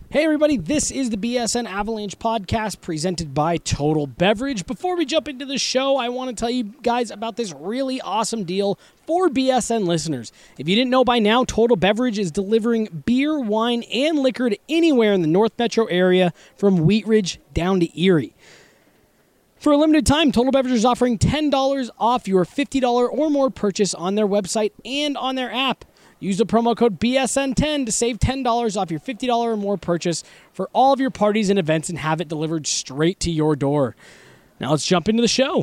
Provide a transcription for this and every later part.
Hey everybody, this is the BSN Avalanche podcast presented by Total Beverage. Before we jump into the show, I want to tell you guys about this really awesome deal for BSN listeners. If you didn't know by now, Total Beverage is delivering beer, wine, and liquor to anywhere in the North Metro area from Wheat Ridge down to Erie. For a limited time, Total Beverage is offering $10 off your $50 or more purchase on their website and on their app. Use the promo code BSN10 to save $10 off your $50 or more purchase for all of your parties and events and have it delivered straight to your door. Now let's jump into the show.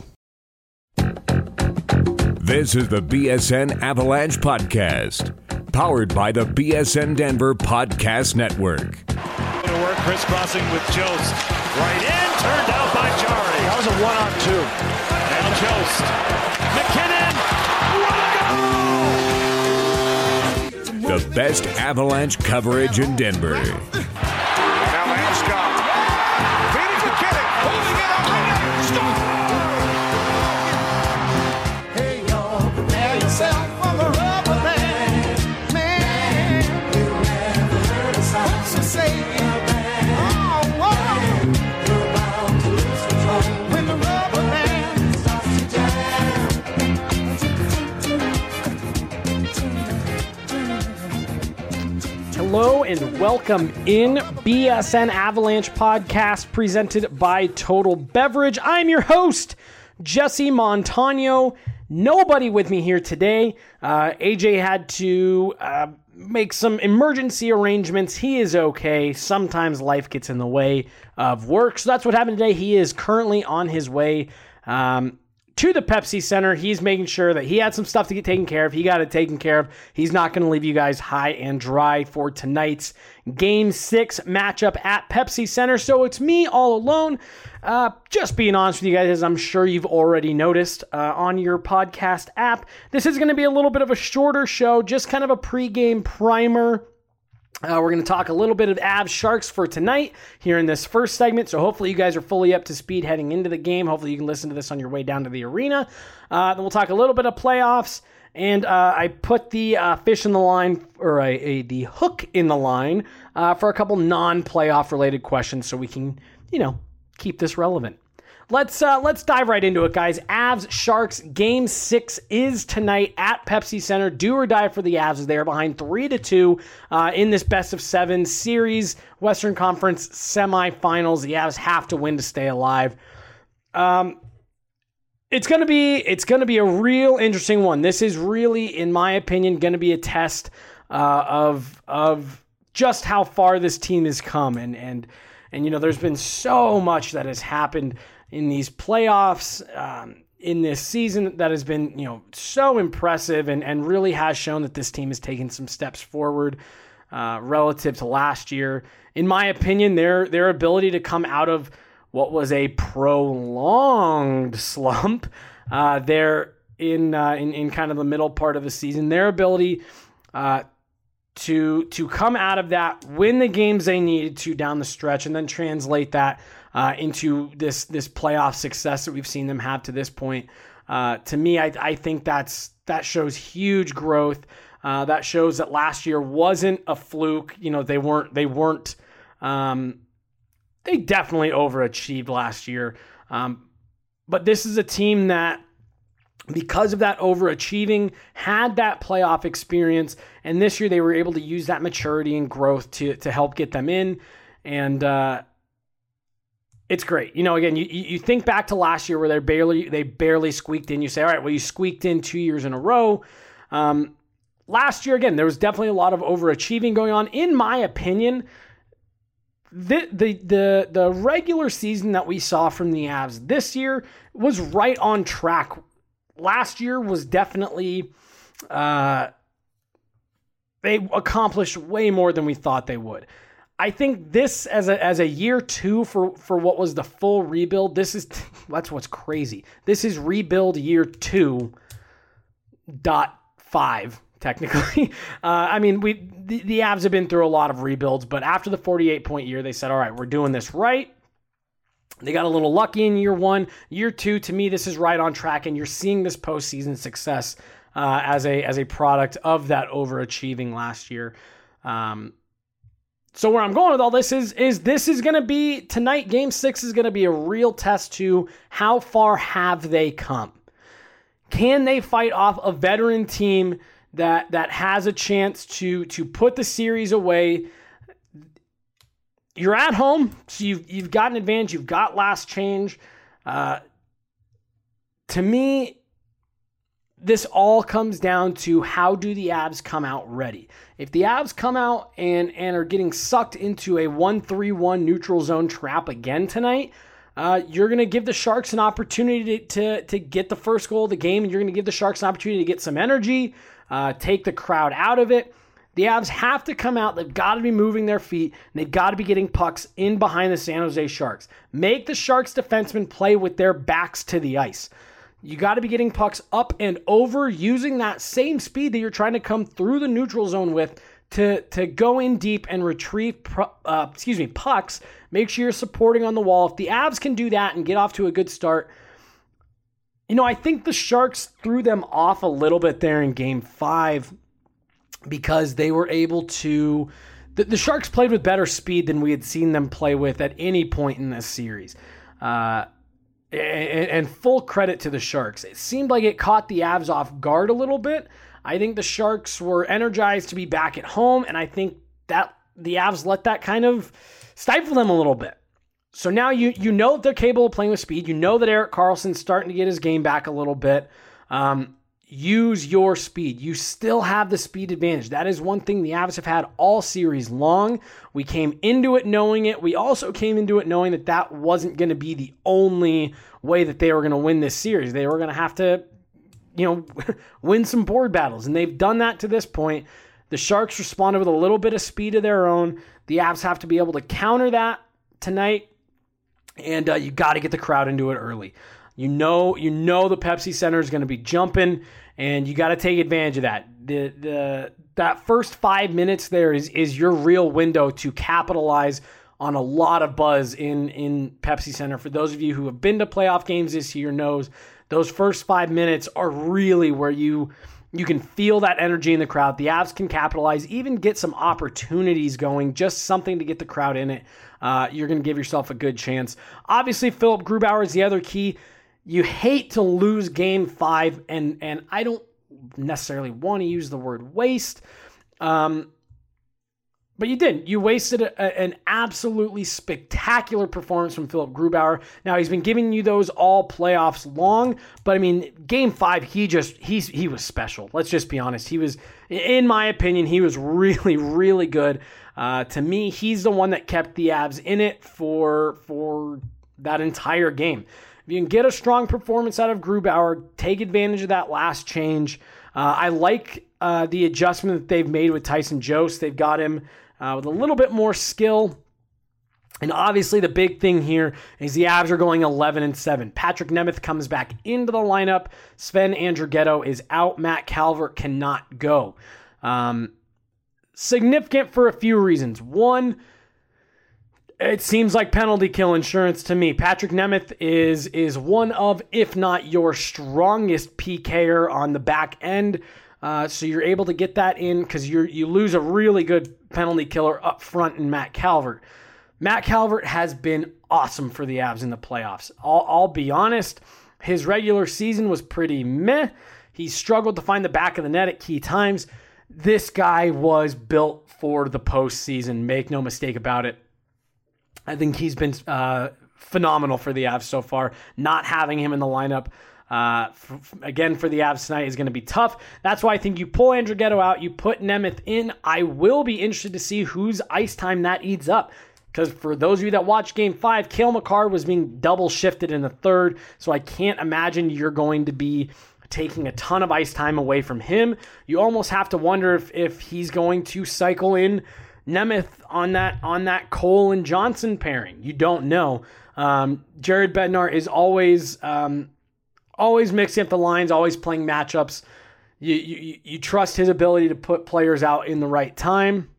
This is the BSN Avalanche Podcast, powered by the BSN Denver Podcast Network. To work, crisscrossing with Jost. Right in, turned out by Jari. That was a 1-on-2. Now Jost. McKinnon. What a goal! The best Avalanche coverage in Denver. Now Landeskog. Feeding McKinnon. Holding it up. Score! Hey, y'all, prepare yourself for the rubber band. Man, you never heard a song so say it. Oh, whoa. You're about to lose control when the rubber band starts to jam. Hello and welcome in BSN Avalanche podcast presented by Total Beverage. I'm your host, Jesse Montano. Nobody with me here today. AJ had to make some emergency arrangements. He is okay. Sometimes life gets in the way of work. So that's what happened today. He is currently on his way to the Pepsi Center. He's making sure that he had some stuff to get taken care of. He got it taken care of. He's not going to leave you guys high and dry for tonight's Game 6 matchup at Pepsi Center. So it's me all alone. Just being honest with you guys, as I'm sure you've already noticed on your podcast app, this is going to be a little bit of a shorter show, just kind of a pregame primer. We're going to talk a little bit of Avs Sharks for tonight here in this first segment, so hopefully you guys are fully up to speed heading into the game. Hopefully you can listen to this on your way down to the arena. Then we'll talk a little bit of playoffs, and I put the fish in the line, or the hook in the line for a couple non-playoff related questions so we can, keep this relevant. Let's dive right into it, guys. Avs Sharks Game 6 is tonight at Pepsi Center. Do or die for the Avs as they are behind 3-2 in this best-of-7 series, Western Conference semifinals. The Avs have to win to stay alive. It's gonna be a real interesting one. This is really, in my opinion, gonna be a test of just how far this team has come, and there's been so much that has happened in these playoffs, in this season that has been, so impressive and really has shown that this team has taken some steps forward relative to last year. In my opinion, their ability to come out of what was a prolonged slump there in kind of the middle part of the season, their ability to come out of that, win the games they needed to down the stretch, and then translate that into this playoff success that we've seen them have to this point. To me, I think that shows huge growth. That shows that last year wasn't a fluke. They definitely overachieved last year. But this is a team that, because of that overachieving, had that playoff experience, and this year they were able to use that maturity and growth to help get them in, and it's great. Again, you think back to last year where they barely squeaked in. You say, all right, well, you squeaked in 2 years in a row. Last year, again, there was definitely a lot of overachieving going on. In my opinion, the regular season that we saw from the Avs this year was right on track. Last year was definitely, they accomplished way more than we thought they would. I think this as a year two for what was the full rebuild, that's what's crazy. This is rebuild year 2.5, technically. The Avs have been through a lot of rebuilds, but after the 48-point year, they said, all right, we're doing this right. They got a little lucky in year 1. Year 2, to me, this is right on track, and you're seeing this postseason success as a product of that overachieving last year. So where I'm going with all this is this is going to be, tonight, Game 6 is going to be a real test to how far have they come. Can they fight off a veteran team that has a chance to put the series away? You're at home, so you've got an advantage. You've got last change. To me, this all comes down to how do the Avs come out ready. If the Avs come out and are getting sucked into a 1-3-1 neutral zone trap again tonight, you're going to give the Sharks an opportunity to get the first goal of the game, and you're going to give the Sharks an opportunity to get some energy, take the crowd out of it. The Avs have to come out. They've got to be moving their feet, and they've got to be getting pucks in behind the San Jose Sharks. Make the Sharks defensemen play with their backs to the ice. You got to be getting pucks up and over, using that same speed that you're trying to come through the neutral zone with to go in deep and retrieve pucks. Make sure you're supporting on the wall. If the Avs can do that and get off to a good start, I think the Sharks threw them off a little bit there in Game 5 because they were able to... The Sharks played with better speed than we had seen them play with at any point in this series. And full credit to the Sharks. It seemed like it caught the Avs off guard a little bit. I think the Sharks were energized to be back at home, and I think that the Avs let that kind of stifle them a little bit. So now you know that they're capable of playing with speed. You know that Erik Karlsson's starting to get his game back a little bit. Use your speed. You still have the speed advantage. That is one thing the Avs have had all series long. We came into it knowing it. We also came into it knowing that wasn't going to be the only way that they were going to win this series. They were going to have to, win some board battles, and they've done that to this point. The Sharks responded with a little bit of speed of their own. The Avs have to be able to counter that tonight, and you got to get the crowd into it early. You know the Pepsi Center is going to be jumping, and you got to take advantage of that. That first 5 minutes there is your real window to capitalize on a lot of buzz in Pepsi Center. For those of you who have been to playoff games this year knows those first 5 minutes are really where you can feel that energy in the crowd. The Avs can capitalize, even get some opportunities going, just something to get the crowd in it. You're going to give yourself a good chance. Obviously, Philip Grubauer is the other key. You hate to lose Game 5, and I don't necessarily want to use the word waste, but you didn't. You wasted an absolutely spectacular performance from Philip Grubauer. Now, he's been giving you those all playoffs long, but I mean, Game 5, he was special. Let's just be honest. He was, in my opinion, he was really, really good. To me, he's the one that kept the Avs in it for that entire game. If you can get a strong performance out of Grubauer, take advantage of that last change. I like the adjustment that they've made with Tyson Jost. They've got him with a little bit more skill. And obviously the big thing here is the Avs are going 11-7. Patrick Nemeth comes back into the lineup. Sven Andrighetto is out. Matt Calvert cannot go. Significant for a few reasons. One, it seems like penalty kill insurance to me. Patrick Nemeth is one of, if not your strongest PKer on the back end. So you're able to get that in because you lose a really good penalty killer up front in Matt Calvert. Matt Calvert has been awesome for the Avs in the playoffs. I'll be honest, his regular season was pretty meh. He struggled to find the back of the net at key times. This guy was built for the postseason. Make no mistake about it. I think he's been phenomenal for the Avs so far. Not having him in the lineup, again, for the Avs tonight is going to be tough. That's why I think you pull Andrighetto out, you put Nemeth in. I will be interested to see whose ice time that eats up. Because for those of you that watched Game 5, Cale Makar was being double shifted in the third, so I can't imagine you're going to be taking a ton of ice time away from him. You almost have to wonder if he's going to cycle in Nemeth on that Cole and Johnson pairing. You don't know. Jared Bednar is always mixing up the lines, always playing matchups. You trust his ability to put players out in the right time,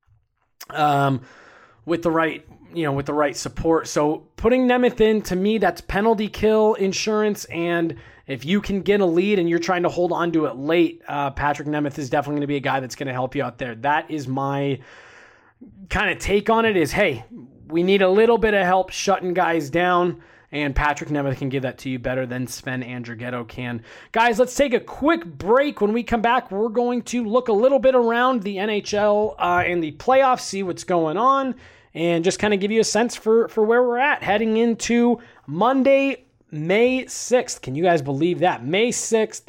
with the right support. So putting Nemeth in, to me, that's penalty kill insurance. And if you can get a lead and you're trying to hold on to it late, Patrick Nemeth is definitely going to be a guy that's going to help you out there. That is my kind of take on it is, hey, we need a little bit of help shutting guys down, and Patrick Nemeth can give that to you better than Sven Andrighetto can. Guys, let's take a quick break. When we come back, we're going to look a little bit around the NHL and the playoffs, see what's going on, and just kind of give you a sense for where we're at heading into Monday, May 6th. Can you guys believe that? May 6th.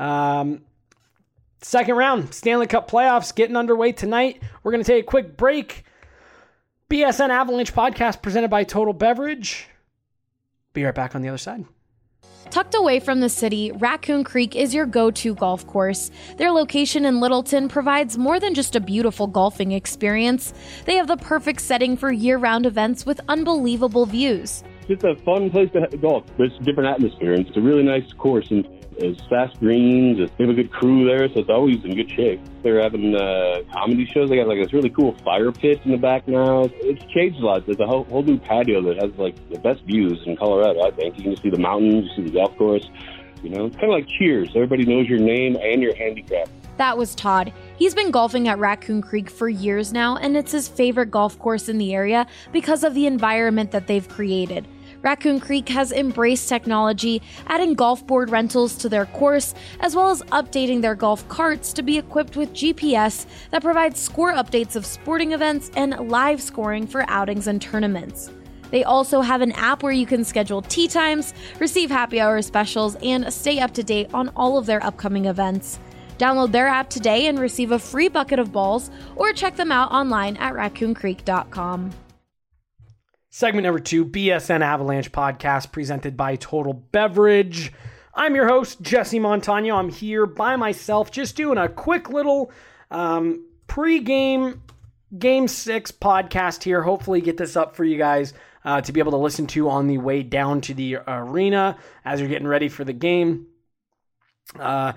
Second round, Stanley Cup playoffs getting underway tonight. We're going to take a quick break. BSN Avalanche podcast presented by Total Beverage. Be right back on the other side. Tucked away from the city, Raccoon Creek is your go-to golf course. Their location in Littleton provides more than just a beautiful golfing experience. They have the perfect setting for year-round events with unbelievable views. It's a fun place to golf. There's a different atmosphere, and it's a really nice course, and it's fast greens. They have a good crew there, so it's always in good shape. They're having comedy shows. They got like this really cool fire pit in the back now. It's changed a lot. There's a whole new patio that has like the best views in Colorado, I think. You can see the mountains, you see the golf course. You know, it's kind of like Cheers. Everybody knows your name and your handicap. That was Todd. He's been golfing at Raccoon Creek for years now, and it's his favorite golf course in the area because of the environment that they've created. Raccoon Creek has embraced technology, adding golf board rentals to their course, as well as updating their golf carts to be equipped with GPS that provides score updates of sporting events and live scoring for outings and tournaments. They also have an app where you can schedule tee times, receive happy hour specials, and stay up to date on all of their upcoming events. Download their app today and receive a free bucket of balls, or check them out online at raccooncreek.com. Segment number 2, BSN Avalanche podcast presented by Total Beverage. I'm your host, Jesse Montano. I'm here by myself, just doing a quick little pre-game Game 6 podcast here. Hopefully get this up for you guys to be able to listen to on the way down to the arena as you're getting ready for the game. So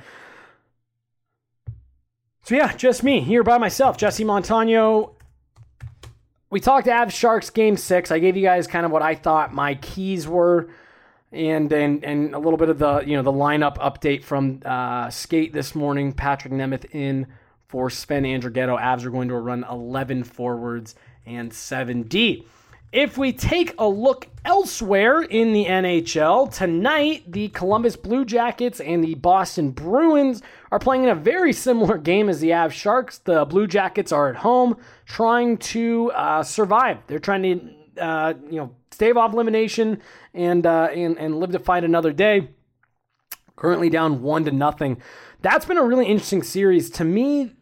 yeah, just me here by myself, Jesse Montano. We talked Avs Sharks Game 6. I gave you guys kind of what I thought my keys were, and a little bit of the the lineup update from Skate this morning. Patrick Nemeth in for Sven Andrighetto. Avs are going to run 11 forwards and 7D. If we take a look elsewhere in the NHL, tonight the Columbus Blue Jackets and the Boston Bruins are playing in a very similar game as the Avs Sharks. The Blue Jackets are at home trying to survive. They're trying to stave off elimination and live to fight another day. Currently down 1-0. That's been a really interesting series to me.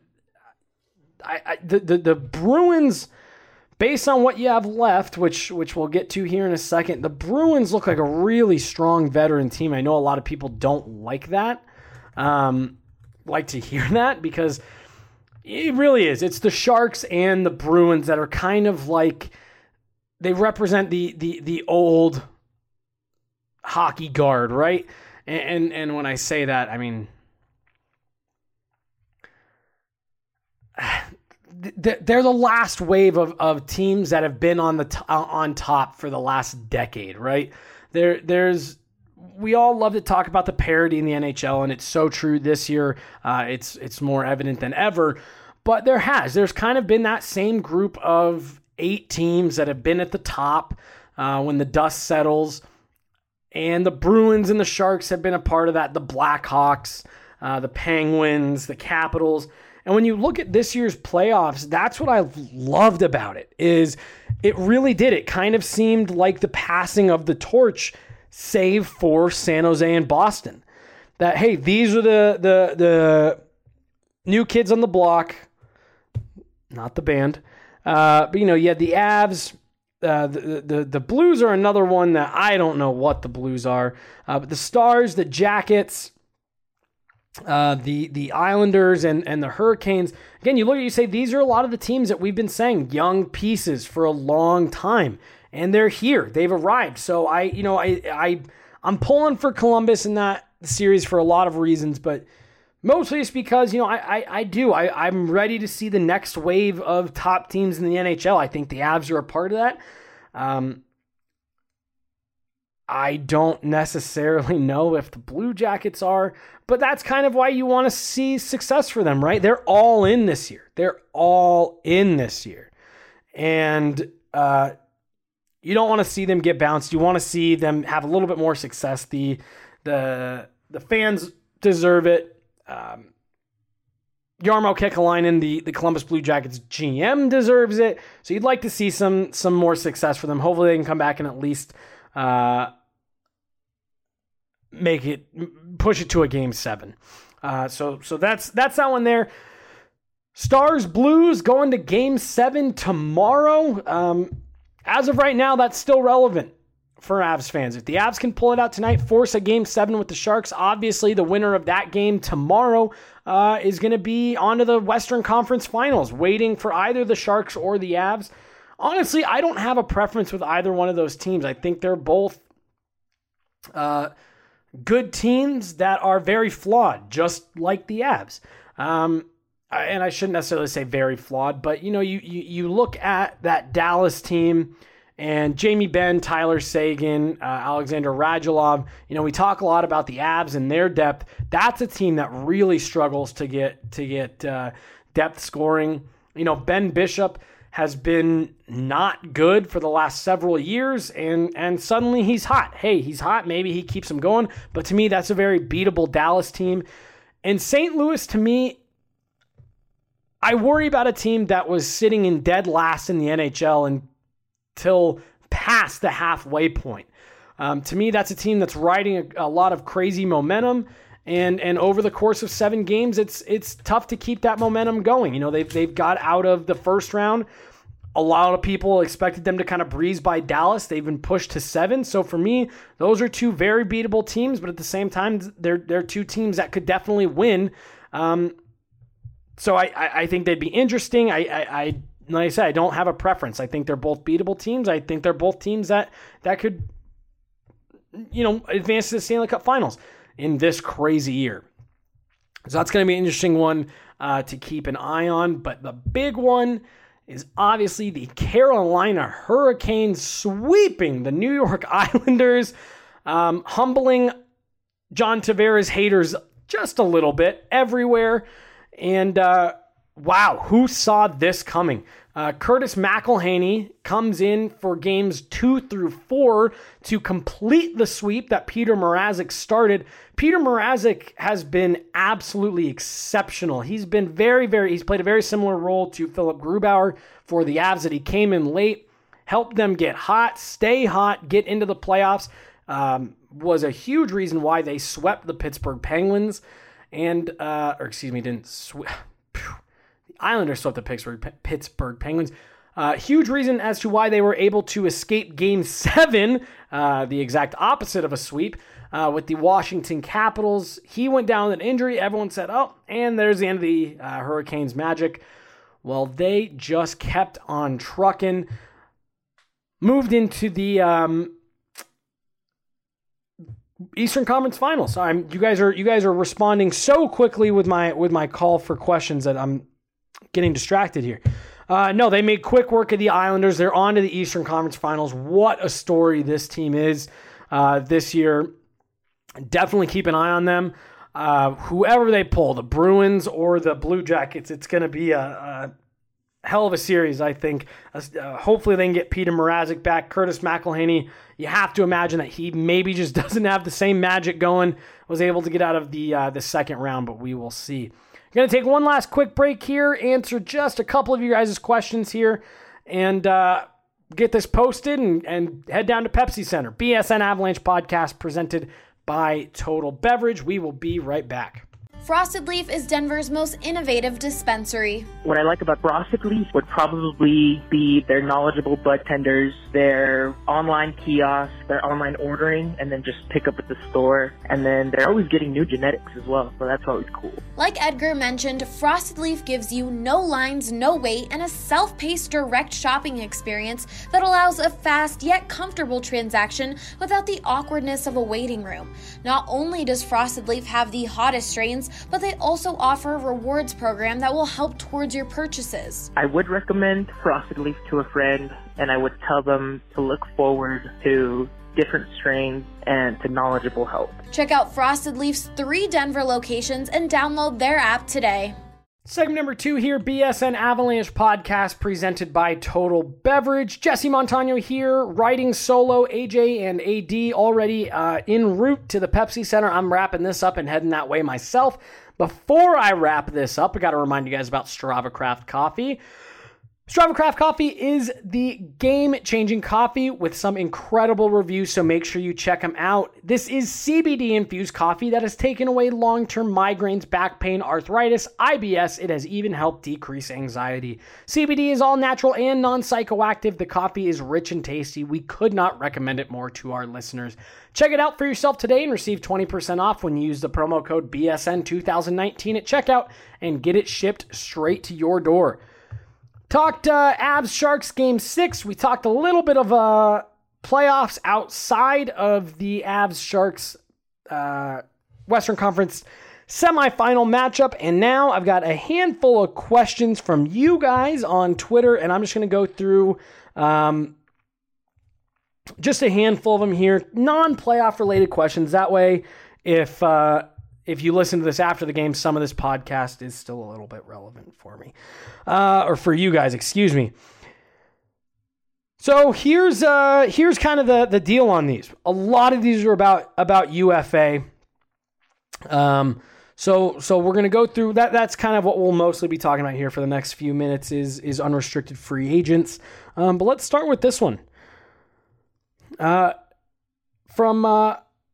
The Bruins, based on what you have left, which we'll get to here in a second, the Bruins look like a really strong veteran team. I know a lot of people don't like that, like to hear that, because it really is. It's the Sharks and the Bruins that are kind of like, they represent the old hockey guard, right? And when I say that, I mean, they're the last wave of teams that have been on top for the last decade, right? We all love to talk about the parity in the NHL, and it's so true this year. It's more evident than ever. But there's kind of been that same group of 8 teams that have been at the top when the dust settles. And the Bruins and the Sharks have been a part of that. The Blackhawks, the Penguins, the Capitals. And when you look at this year's playoffs, that's what I loved about it, is it really did. It kind of seemed like the passing of the torch, save for San Jose and Boston. That, hey, these are the new kids on the block, not the band. But, you had the Avs. The Blues are another one that I don't know what the Blues are. But the Stars, the Jackets, the Islanders and the Hurricanes. Again, you look at, you say, these are a lot of the teams that we've been saying, young pieces for a long time, and they're here. They've arrived. So I'm pulling for Columbus in that series for a lot of reasons, but mostly it's because, I'm ready to see the next wave of top teams in the NHL. I think the Avs are a part of that. I don't necessarily know if the Blue Jackets are, but that's kind of why you want to see success for them, right? They're all in this year. and you don't want to see them get bounced. You want to see them have a little bit more success. The fans deserve it. Jarmo Kekalainen, the Columbus Blue Jackets GM, deserves it. So you'd like to see some more success for them. Hopefully they can come back and at least push it to a Game 7. So that's that one there. Stars Blues going to Game 7 tomorrow. As of right now, that's still relevant for Avs fans. If the Avs can pull it out tonight, force a Game 7 with the Sharks, obviously the winner of that game tomorrow is going to be on to the Western Conference Finals, waiting for either the Sharks or the Avs. Honestly, I don't have a preference with either one of those teams. I think they're both good teams that are very flawed, just like the Avs. And I shouldn't necessarily say very flawed, but you look at that Dallas team and Jamie Benn, Tyler Seguin, Alexander Radulov. We talk a lot about the Avs and their depth. That's a team that really struggles to get depth scoring. Ben Bishop has been not good for the last several years, and suddenly he's hot. Hey, he's hot. Maybe he keeps them going. But to me, that's a very beatable Dallas team. And St. Louis, to me, I worry about a team that was sitting in dead last in the NHL until past the halfway point. To me, that's a team that's riding a lot of crazy momentum, and over the course of 7 games, it's tough to keep that momentum going. They've got out of the first round. A lot of people expected them to kind of breeze by Dallas. They've been pushed to 7. So for me, those are 2 very beatable teams, but at the same time, they're 2 teams that could definitely win. So I think they'd be interesting. Like I said, I don't have a preference. I think they're both beatable teams. I think they're both teams that could, advance to the Stanley Cup Finals in this crazy year. So that's going to be an interesting one to keep an eye on. But the big one is obviously the Carolina Hurricanes sweeping the New York Islanders, humbling John Tavares haters just a little bit everywhere. And wow, who saw this coming? Curtis McElhinney comes in for games 2 through 4 to complete the sweep that Peter Mrazek started. Peter Mrazek has been absolutely exceptional. He's been he's played a very similar role to Philip Grubauer for the Avs, that he came in late, helped them get hot, stay hot, get into the playoffs. Was a huge reason why they swept the Pittsburgh Penguins. The Islanders swept the Pittsburgh Penguins. Huge reason as to why they were able to escape Game 7, the exact opposite of a sweep, with the Washington Capitals. He went down with an injury. Everyone said, oh, and there's the end of the Hurricanes' magic. Well, they just kept on trucking. Moved into the Eastern Conference Finals. You guys are responding so quickly with my call for questions that I'm getting distracted here. No, they made quick work of the Islanders. They're on to the Eastern Conference Finals. What a story this team is this year. Definitely keep an eye on them. Whoever they pull, the Bruins or the Blue Jackets, it's going to be a hell of a series, I think. Hopefully they can get Peter Mrazek back. Curtis McElhinney, you have to imagine that he maybe just doesn't have the same magic going. Was able to get out of the second round, but we will see. Going to take one last quick break here, answer just a couple of you guys' questions here, and get this posted and head down to Pepsi Center. BSN Avalanche podcast presented by Total Beverage. We will be right back. Frosted Leaf is Denver's most innovative dispensary. What I like about Frosted Leaf would probably be their knowledgeable bud tenders, their online kiosk, their online ordering, and then just pick up at the store. And then they're always getting new genetics as well, so that's always cool. Like Edgar mentioned, Frosted Leaf gives you no lines, no wait, and a self-paced direct shopping experience that allows a fast yet comfortable transaction without the awkwardness of a waiting room. Not only does Frosted Leaf have the hottest strains, but they also offer a rewards program that will help towards your purchases. I would recommend Frosted Leaf to a friend, and I would tell them to look forward to different strains and to knowledgeable help. Check out Frosted Leaf's 3 Denver locations and download their app today. Segment number 2 here, BSN Avalanche podcast presented by Total Beverage. Jesse Montano here, riding solo. AJ and AD already en route to the Pepsi Center. I'm wrapping this up and heading that way myself. Before I wrap this up, I got to remind you guys about Strava Craft Coffee. Strava Craft Coffee is the game-changing coffee with some incredible reviews, so make sure you check them out. This is CBD-infused coffee that has taken away long-term migraines, back pain, arthritis, IBS. It has even helped decrease anxiety. CBD is all natural and non-psychoactive. The coffee is rich and tasty. We could not recommend it more to our listeners. Check it out for yourself today and receive 20% off when you use the promo code BSN2019 at checkout and get it shipped straight to your door. Talked Avs Sharks Game 6. We talked a little bit of playoffs outside of the Avs Sharks Western Conference semifinal matchup. And now I've got a handful of questions from you guys on Twitter. And I'm just going to go through just a handful of them here. Non-playoff related questions. That way, if you listen to this after the game, some of this podcast is still a little bit relevant for me. Or for you guys, excuse me. So here's kind of the deal on these. A lot of these are about UFA. So we're going to go through that. That's kind of what we'll mostly be talking about here for the next few minutes is unrestricted free agents. But let's start with this one. From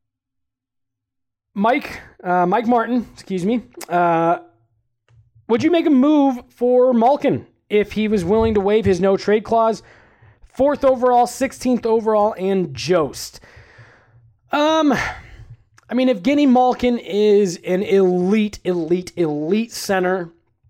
Mike Martin, excuse me. Would you make a move for Malkin if he was willing to waive his no trade clause? 4th overall, 16th overall, and Jost. I mean, if Evgeny Malkin is an elite center,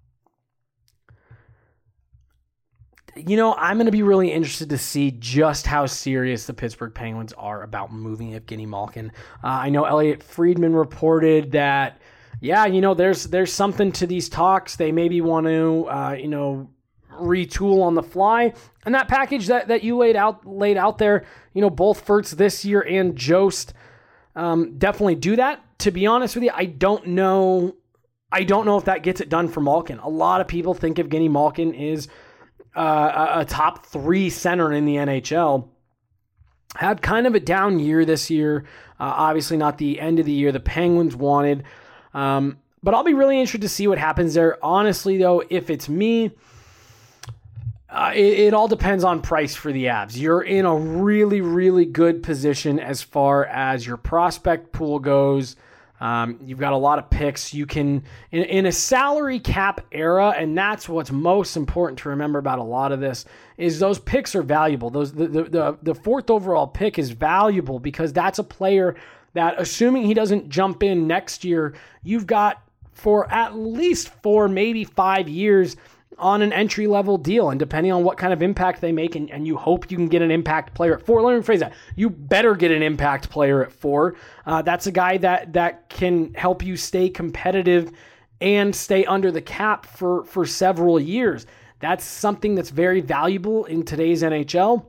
you know, I'm going to be really interested to see just how serious the Pittsburgh Penguins are about moving Evgeny Malkin. I know Elliot Friedman reported that, yeah, you know, there's something to these talks. They maybe want to, retool on the fly. And that package that you laid out there, you know, both Furtz this year and Jost, definitely do that. To be honest with you, I don't know if that gets it done for Malkin. A lot of people think Evgeny Malkin is a top 3 center in the NHL. Had kind of a down year this year. Obviously not the end of the year the Penguins wanted. But I'll be really interested to see what happens there. Honestly, though, if it's me, it all depends on price for the Avs. You're in a really, really good position as far as your prospect pool goes. You've got a lot of picks. You can, in a salary cap era, and that's what's most important to remember about a lot of this, is those picks are valuable. The 4th overall pick is valuable because that's a player that, assuming he doesn't jump in next year, you've got for at least 4, maybe 5 years on an entry-level deal, and depending on what kind of impact they make, and you hope you can get an impact player at 4. Let me rephrase that. You better get an impact player at 4. That's a guy that can help you stay competitive and stay under the cap for several years. That's something that's very valuable in today's NHL.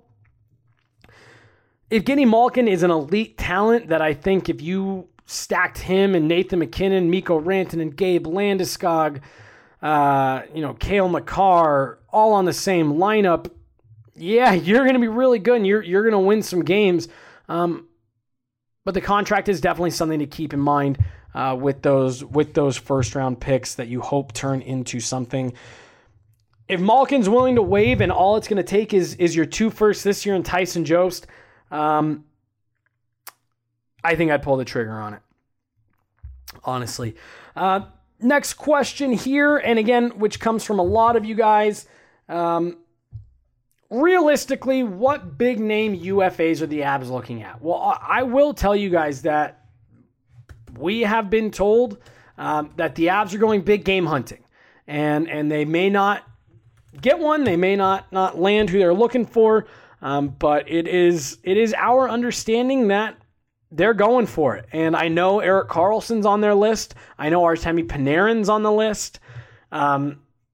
Evgeny Malkin is an elite talent that I think if you stacked him and Nathan McKinnon, Mikko Rantanen, Gabe Landeskog, Cale Makar, all on the same lineup, yeah, you're going to be really good and you're going to win some games. But the contract is definitely something to keep in mind with those first round picks that you hope turn into something. If Malkin's willing to waive and all it's going to take is your 2 firsts this year and Tyson Jost, I think I'd pull the trigger on it, honestly. Next question here, and again, which comes from a lot of you guys. Realistically, what big name UFAs are the Avs looking at? Well, I will tell you guys that we have been told that the Avs are going big game hunting, and they may not get one, they may not land who they're looking for, but it is our understanding that they're going for it. And I know Erik Karlsson's on their list. I know Artemi Panarin's on the list. I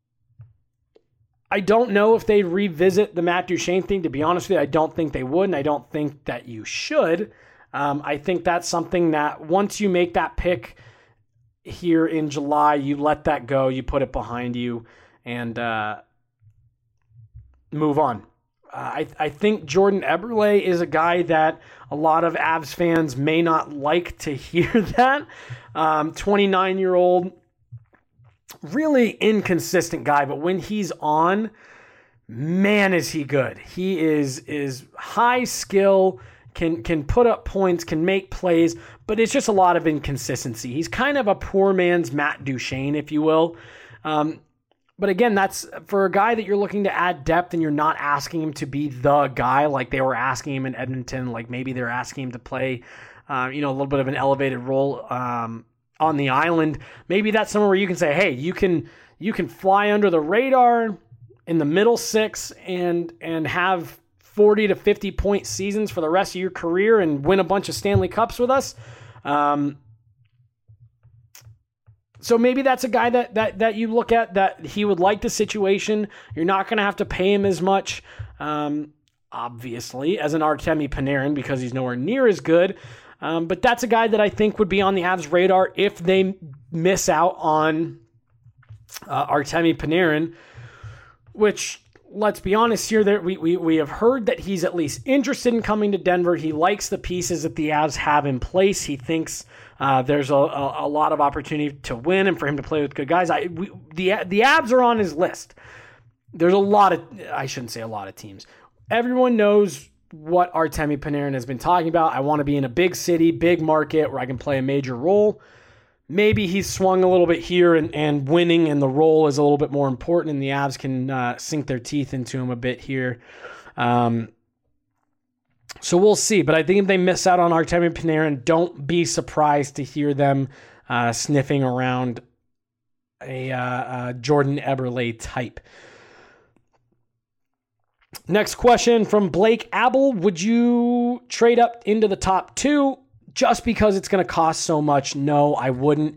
don't know if they revisit the Matt Duchene thing. To be honest with you, I don't think they would, and I don't think that you should. I think that's something that once you make that pick, here in July. You let that go. You put it behind you and move on. I think Jordan Eberle is a guy that a lot of Avs fans may not like to hear that. 29-year-old, really inconsistent guy, but when he's on, man, is he good. He is high skill, can put up points, can make plays, but it's just a lot of inconsistency. He's kind of a poor man's Matt Duchene, if you will. But again, that's for a guy that you're looking to add depth and you're not asking him to be the guy like they were asking him in Edmonton. Like maybe they're asking him to play, a little bit of an elevated role on the island. Maybe that's somewhere where you can say, hey, you can fly under the radar in the middle six and have 40 to 50 point seasons for the rest of your career and win a bunch of Stanley Cups with us. So maybe that's a guy that you look at that he would like the situation. You're not going to have to pay him as much, obviously, as an Artemi Panarin because he's nowhere near as good. But that's a guy that I think would be on the Avs' radar if they miss out on Artemi Panarin, which, let's be honest here, that we have heard that he's at least interested in coming to Denver. He likes the pieces that the Avs have in place. He thinks there's a lot of opportunity to win and for him to play with good guys. The Avs are on his list. There's I shouldn't say a lot of teams. Everyone knows what Artemi Panarin has been talking about. I want to be in a big city, big market where I can play a major role. Maybe he's swung a little bit here and winning and the role is a little bit more important and the Avs can sink their teeth into him a bit here. So we'll see. But I think if they miss out on Artemi Panarin, don't be surprised to hear them sniffing around a Jordan Eberle type. Next question from Blake Abel. Would you trade up into the top two just because it's going to cost so much? No, I wouldn't.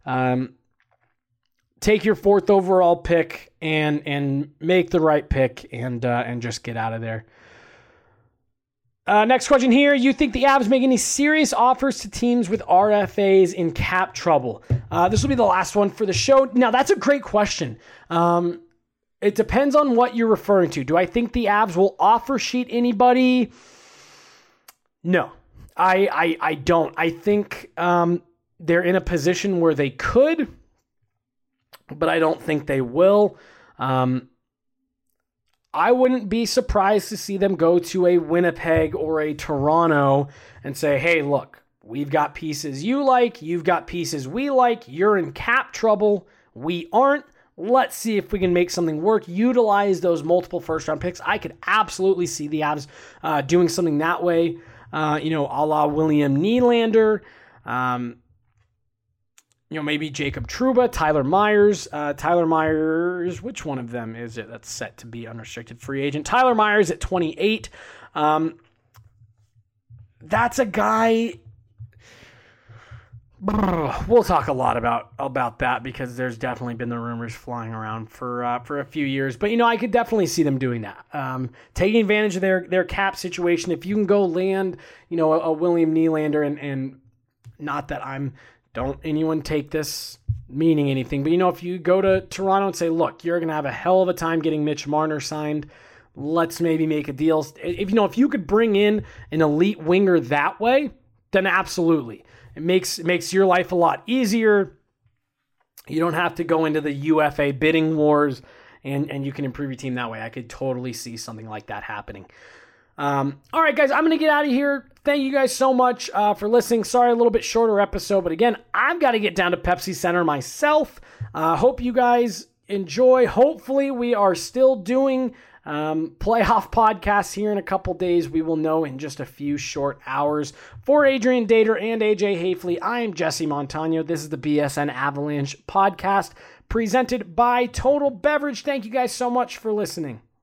Take your 4th overall pick and make the right pick and just get out of there. Next question here. You think the Avs make any serious offers to teams with RFAs in cap trouble? This will be the last one for the show. Now, that's a great question. It depends on what you're referring to. Do I think the Avs will offer sheet anybody? No, I don't. I think they're in a position where they could, but I don't think they will. I wouldn't be surprised to see them go to a Winnipeg or a Toronto and say, hey, look, we've got pieces you like, you've got pieces we like, you're in cap trouble, we aren't. Let's see if we can make something work. Utilize those multiple first-round picks. I could absolutely see the Avs doing something that way, a la William Nylander, maybe Jacob Trouba, Tyler Myers. Which one of them is it that's set to be unrestricted free agent? Tyler Myers at 28. That's a guy. We'll talk a lot about that because there's definitely been the rumors flying around for a few years. But, I could definitely see them doing that. Taking advantage of their cap situation. If you can go land, a William Nylander and not that don't anyone take this meaning anything, but if you go to Toronto and say, look, you're going to have a hell of a time getting Mitch Marner signed. Let's maybe make a deal. If you could bring in an elite winger that way, then absolutely. It makes your life a lot easier. You don't have to go into the UFA bidding wars, and you can improve your team that way. I could totally see something like that happening. All right, guys, I'm going to get out of here. Thank you guys so much for listening. Sorry, a little bit shorter episode, but again, I've got to get down to Pepsi Center myself. Hope you guys enjoy. Hopefully, we are still doing playoff podcasts here in a couple days. We will know in just a few short hours. For Adrian Dater and AJ Hafley, I am Jesse Montano. This is the BSN Avalanche podcast presented by Total Beverage. Thank you guys so much for listening.